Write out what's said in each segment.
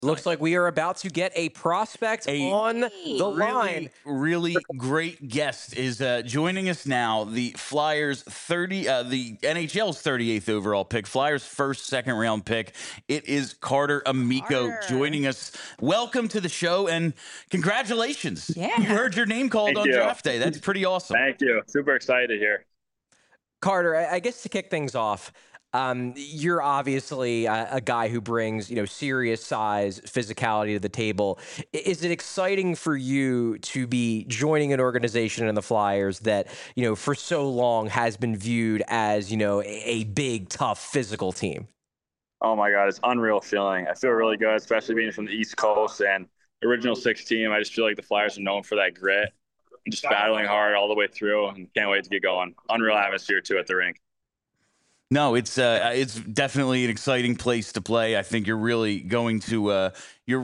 Looks like we are about to get a prospect on the line. Really great guest is joining us now. The Flyers the NHL's 38th overall pick, Flyers first, second round pick. It is Carter Amico joining us. Welcome to the show and congratulations. Yeah. You heard your name called on draft day. That's pretty awesome. Thank you. Super excited here. Carter, I guess to kick things off, you're obviously a guy who brings, serious size, physicality to the table. Is it exciting for you to be joining an organization in the Flyers that, for so long has been viewed as, a big, tough, physical team? Oh my God, it's an unreal feeling. I feel really good, especially being from the East Coast and original six team. I just feel like the Flyers are known for that grit and just battling hard all the way through, and can't wait to get going. Unreal atmosphere too at the rink. No, it's definitely an exciting place to play. I think you're really going to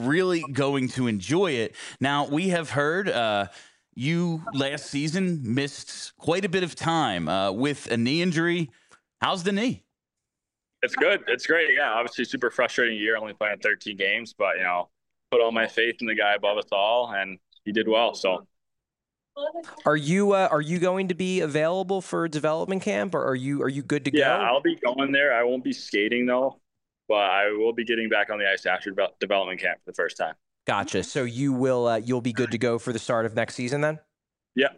enjoy it. Now, we have heard you last season missed quite a bit of time with a knee injury. How's the knee? It's good. It's great. Yeah, obviously super frustrating year, only playing 13 games, but put all my faith in the guy above us all, and he did well. So. Are you going to be available for development camp, or are you good to go? Yeah, I'll be going there. I won't be skating though, but I will be getting back on the ice after development camp for the first time. Gotcha. So you'll be good to go for the start of next season then? Yeah.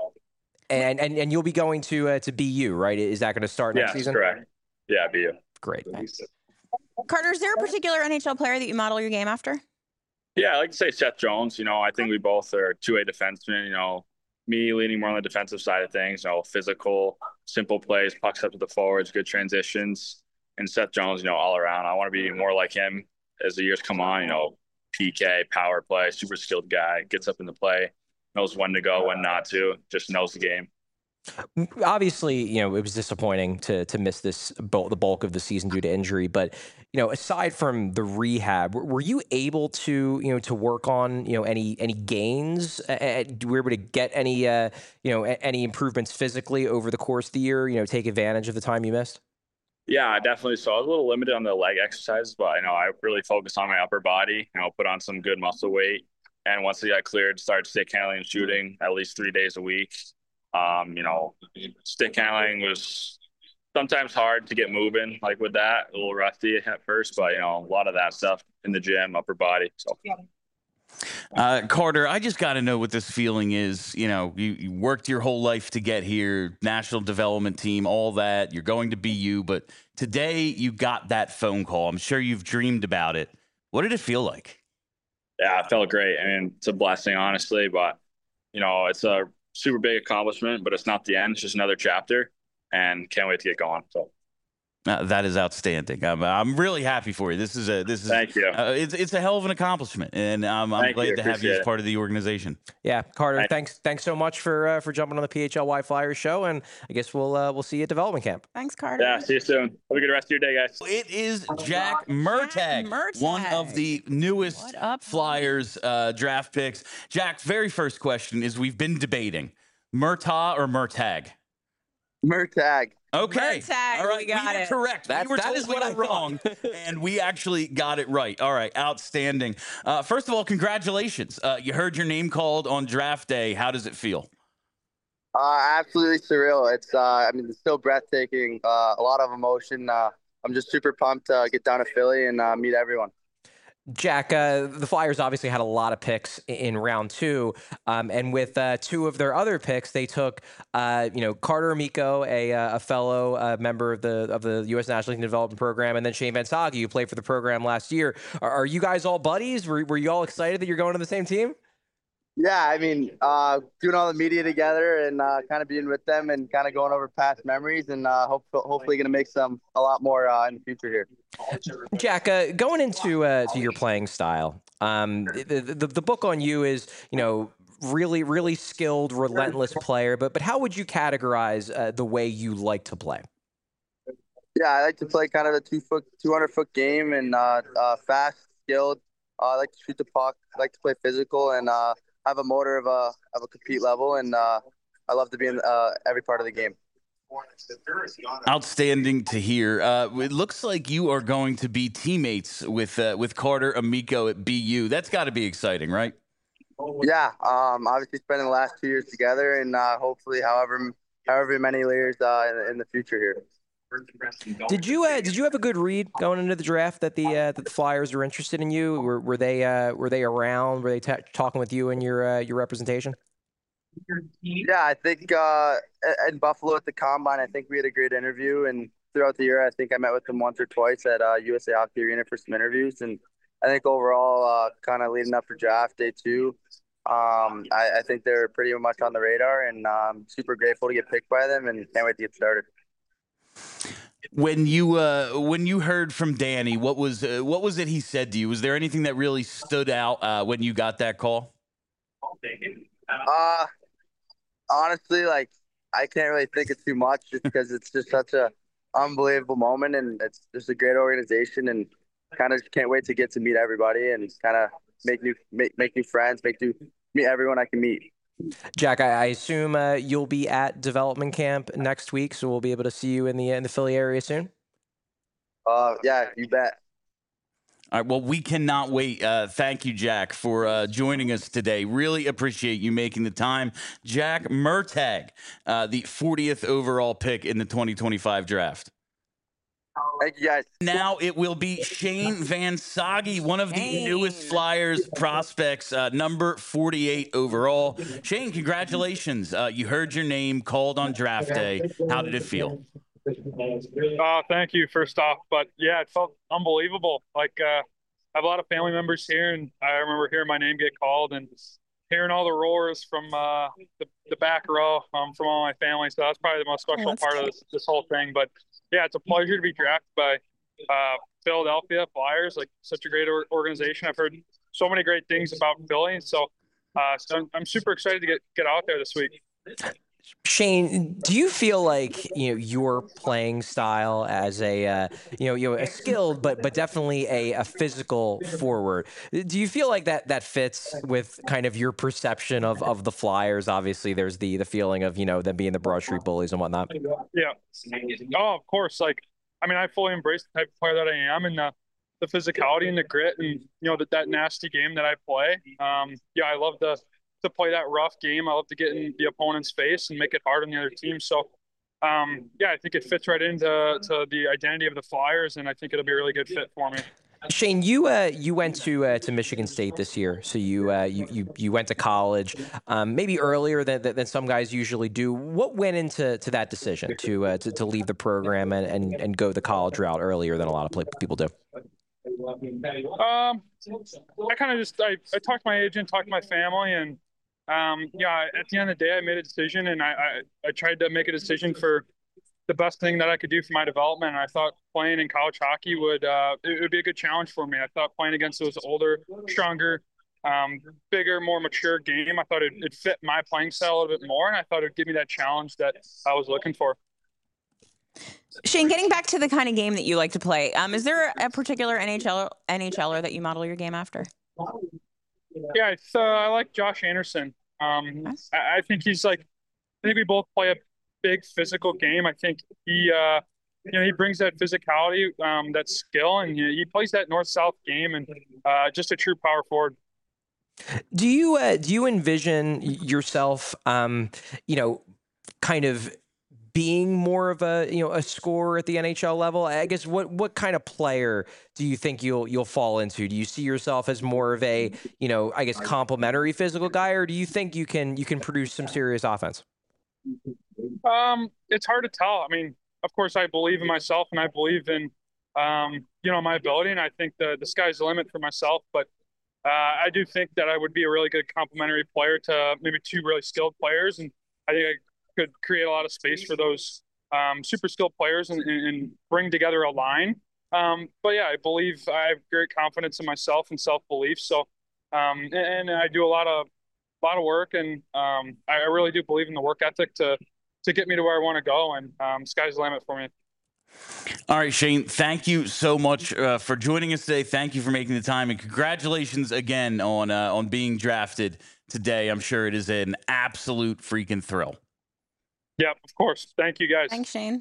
And you'll be going to BU, right? Is that going to start next season? Correct. Yeah, BU. Great. Carter, is there a particular NHL player that you model your game after? Yeah, I like to say Seth Jones. I think we both are two-way defensemen. Me leaning more on the defensive side of things, physical, simple plays, pucks up to the forwards, good transitions. And Seth Jones, all around. I want to be more like him as the years come on, PK, power play, super skilled guy, gets up in the play, knows when to go, when not to, just knows the game. Obviously, it was disappointing to miss the bulk of the season due to injury. But, aside from the rehab, were you able to, to work on, any gains? Were you able to get any, any improvements physically over the course of the year, take advantage of the time you missed? Yeah, definitely. So I was a little limited on the leg exercises, but, I really focused on my upper body, put on some good muscle weight. And once I got cleared, started stick handling and shooting at least 3 days a week. Stick handling was sometimes hard to get moving, like with that, a little rusty at first, but a lot of that stuff in the gym, upper body. So. Carter, I just got to know what this feeling is. You worked your whole life to get here, national development team, all that. You're going to BU, but today you got that phone call. I'm sure you've dreamed about it. What did it feel like? Yeah, it felt great. I mean, it's a blessing, honestly, but it's a super big accomplishment, but it's not the end. It's just another chapter, and can't wait to get going. So that is outstanding. I'm really happy for you. This is thank you. It's a hell of an accomplishment, and I'm glad to have you as part of the organization. Yeah, Carter, thanks so much for jumping on the PHLY Flyers show, and I guess we'll see you at development camp. Thanks, Carter. Yeah, see you soon. Have a good rest of your day, guys. It is Jack Murtagh, one of the newest Flyers draft picks. Jack, very first question is, we've been debating Murtagh or Murtagh? Murtagh. Okay. Murtagh, all right. we got it. Correct. That is what I'm wrong. And we actually got it right. All right. Outstanding. First of all, congratulations. You heard your name called on draft day. How does it feel? Absolutely surreal. It's it's still breathtaking. A lot of emotion. I'm just super pumped to get down to Philly and meet everyone. Jack, the Flyers obviously had a lot of picks in round two, and with two of their other picks, they took, Carter Amico, a fellow member of the U.S. National League Development Program, and then Shane Van Sage, who played for the program last year. Are you guys all buddies? Were you all excited that you're going to the same team? Yeah, doing all the media together and kind of being with them and kind of going over past memories and hopefully going to make a lot more in the future here. Jack, going into your playing style, the book on you is, really, really skilled, relentless player. But how would you categorize the way you like to play? Yeah, I like to play kind of a 200-foot game and fast, skilled. I like to shoot the puck. I like to play physical and have a motor of a compete level, and I love to be in every part of the game. Outstanding to hear. It looks like you are going to be teammates with Carter Amico at BU. That's got to be exciting, right? Yeah, obviously spending the last 2 years together, and hopefully, however many years in the future here. Did you have a good read going into the draft that the Flyers were interested in you? Were they around? Were they talking with you and your representation? Yeah, I think in Buffalo at the Combine, I think we had a great interview, and throughout the year, I think I met with them once or twice at USA Hockey Arena for some interviews, and I think overall, kind of leading up for draft day 2, I think they're pretty much on the radar, and I'm super grateful to get picked by them, and can't wait to get started. When you heard from Danny, what was it he said to you? Was there anything that really stood out when you got that call? Honestly, like, I can't really think of too much just because it's just such a unbelievable moment, and it's just a great organization, and kind of can't wait to get to meet everybody and kind of make new friends, meet everyone I can meet. Jack, I assume you'll be at development camp next week, so we'll be able to see you in the Philly area soon. Yeah, you bet. All right, well, we cannot wait. Thank you, Jack, for joining us today. Really appreciate you making the time. Jack Murtagh, the 40th overall pick in the 2025 draft. Thank you, guys. Now it will be Shane Van Sage, one of the newest Flyers prospects, number 48 overall. Shane, congratulations. You heard your name called on draft day. How did it feel? Thank you, first off. But yeah, it felt unbelievable. Like, I have a lot of family members here, and I remember hearing my name get called and hearing all the roars from the back row from all my family. So that's probably the most special part of this whole thing. But yeah, it's a pleasure to be drafted by Philadelphia Flyers, like such a great organization. I've heard so many great things about Philly. So I'm super excited to get out there this week. Shane, do you feel like your playing style as a a skilled but definitely a physical forward? Do you feel like that fits with kind of your perception of the Flyers? Obviously, there's the feeling of them being the Broad Street bullies and whatnot. Yeah. Oh, of course. Like, I mean, I fully embrace the type of player that I am, and the physicality and the grit, and that nasty game that I play. Yeah, I love to play that rough game. I love to get in the opponent's face and make it hard on the other team. So, yeah, I think it fits right into the identity of the Flyers, and I think it'll be a really good fit for me. Shane, you went to Michigan State this year, so you went to college, maybe earlier than some guys usually do. What went into that decision to leave the program and go the college route earlier than a lot of people do? I kind of just I talked to my agent, talked to my family, and yeah, at the end of the day, I made a decision, and I tried to make a decision for the best thing that I could do for my development. And I thought playing in college hockey would be a good challenge for me. I thought playing against those older, stronger, bigger, more mature game, I thought it'd fit my playing style a little bit more, and I thought it'd give me that challenge that I was looking for. Shane, getting back to the kind of game that you like to play, is there a particular NHLer that you model your game after? Yeah, I like Josh Anderson. I think he's I think we both play a big physical game. I think he brings that physicality, that skill, and he plays that north-south game, and just a true power forward. Do you envision yourself, kind of being more of a scorer at the NHL level? I guess what kind of player do you think you'll fall into? Do you see yourself as more of a I guess complementary physical guy, or do you think you can produce some serious offense? It's hard to tell. I mean, of course, I believe in myself, and I believe in my ability, and I think the sky's the limit for myself. But I do think that I would be a really good complementary player to maybe two really skilled players, and I think I could create a lot of space for those super skilled players and bring together a line. But yeah, I believe I have great confidence in myself and self-belief. So, and I do a lot of work, and I really do believe in the work ethic to get me to where I want to go, and sky's the limit for me. All right, Shane, thank you so much for joining us today. Thank you for making the time, and congratulations again on being drafted today. I'm sure it is an absolute freaking thrill. Yeah, of course. Thank you guys. Thanks, Shane.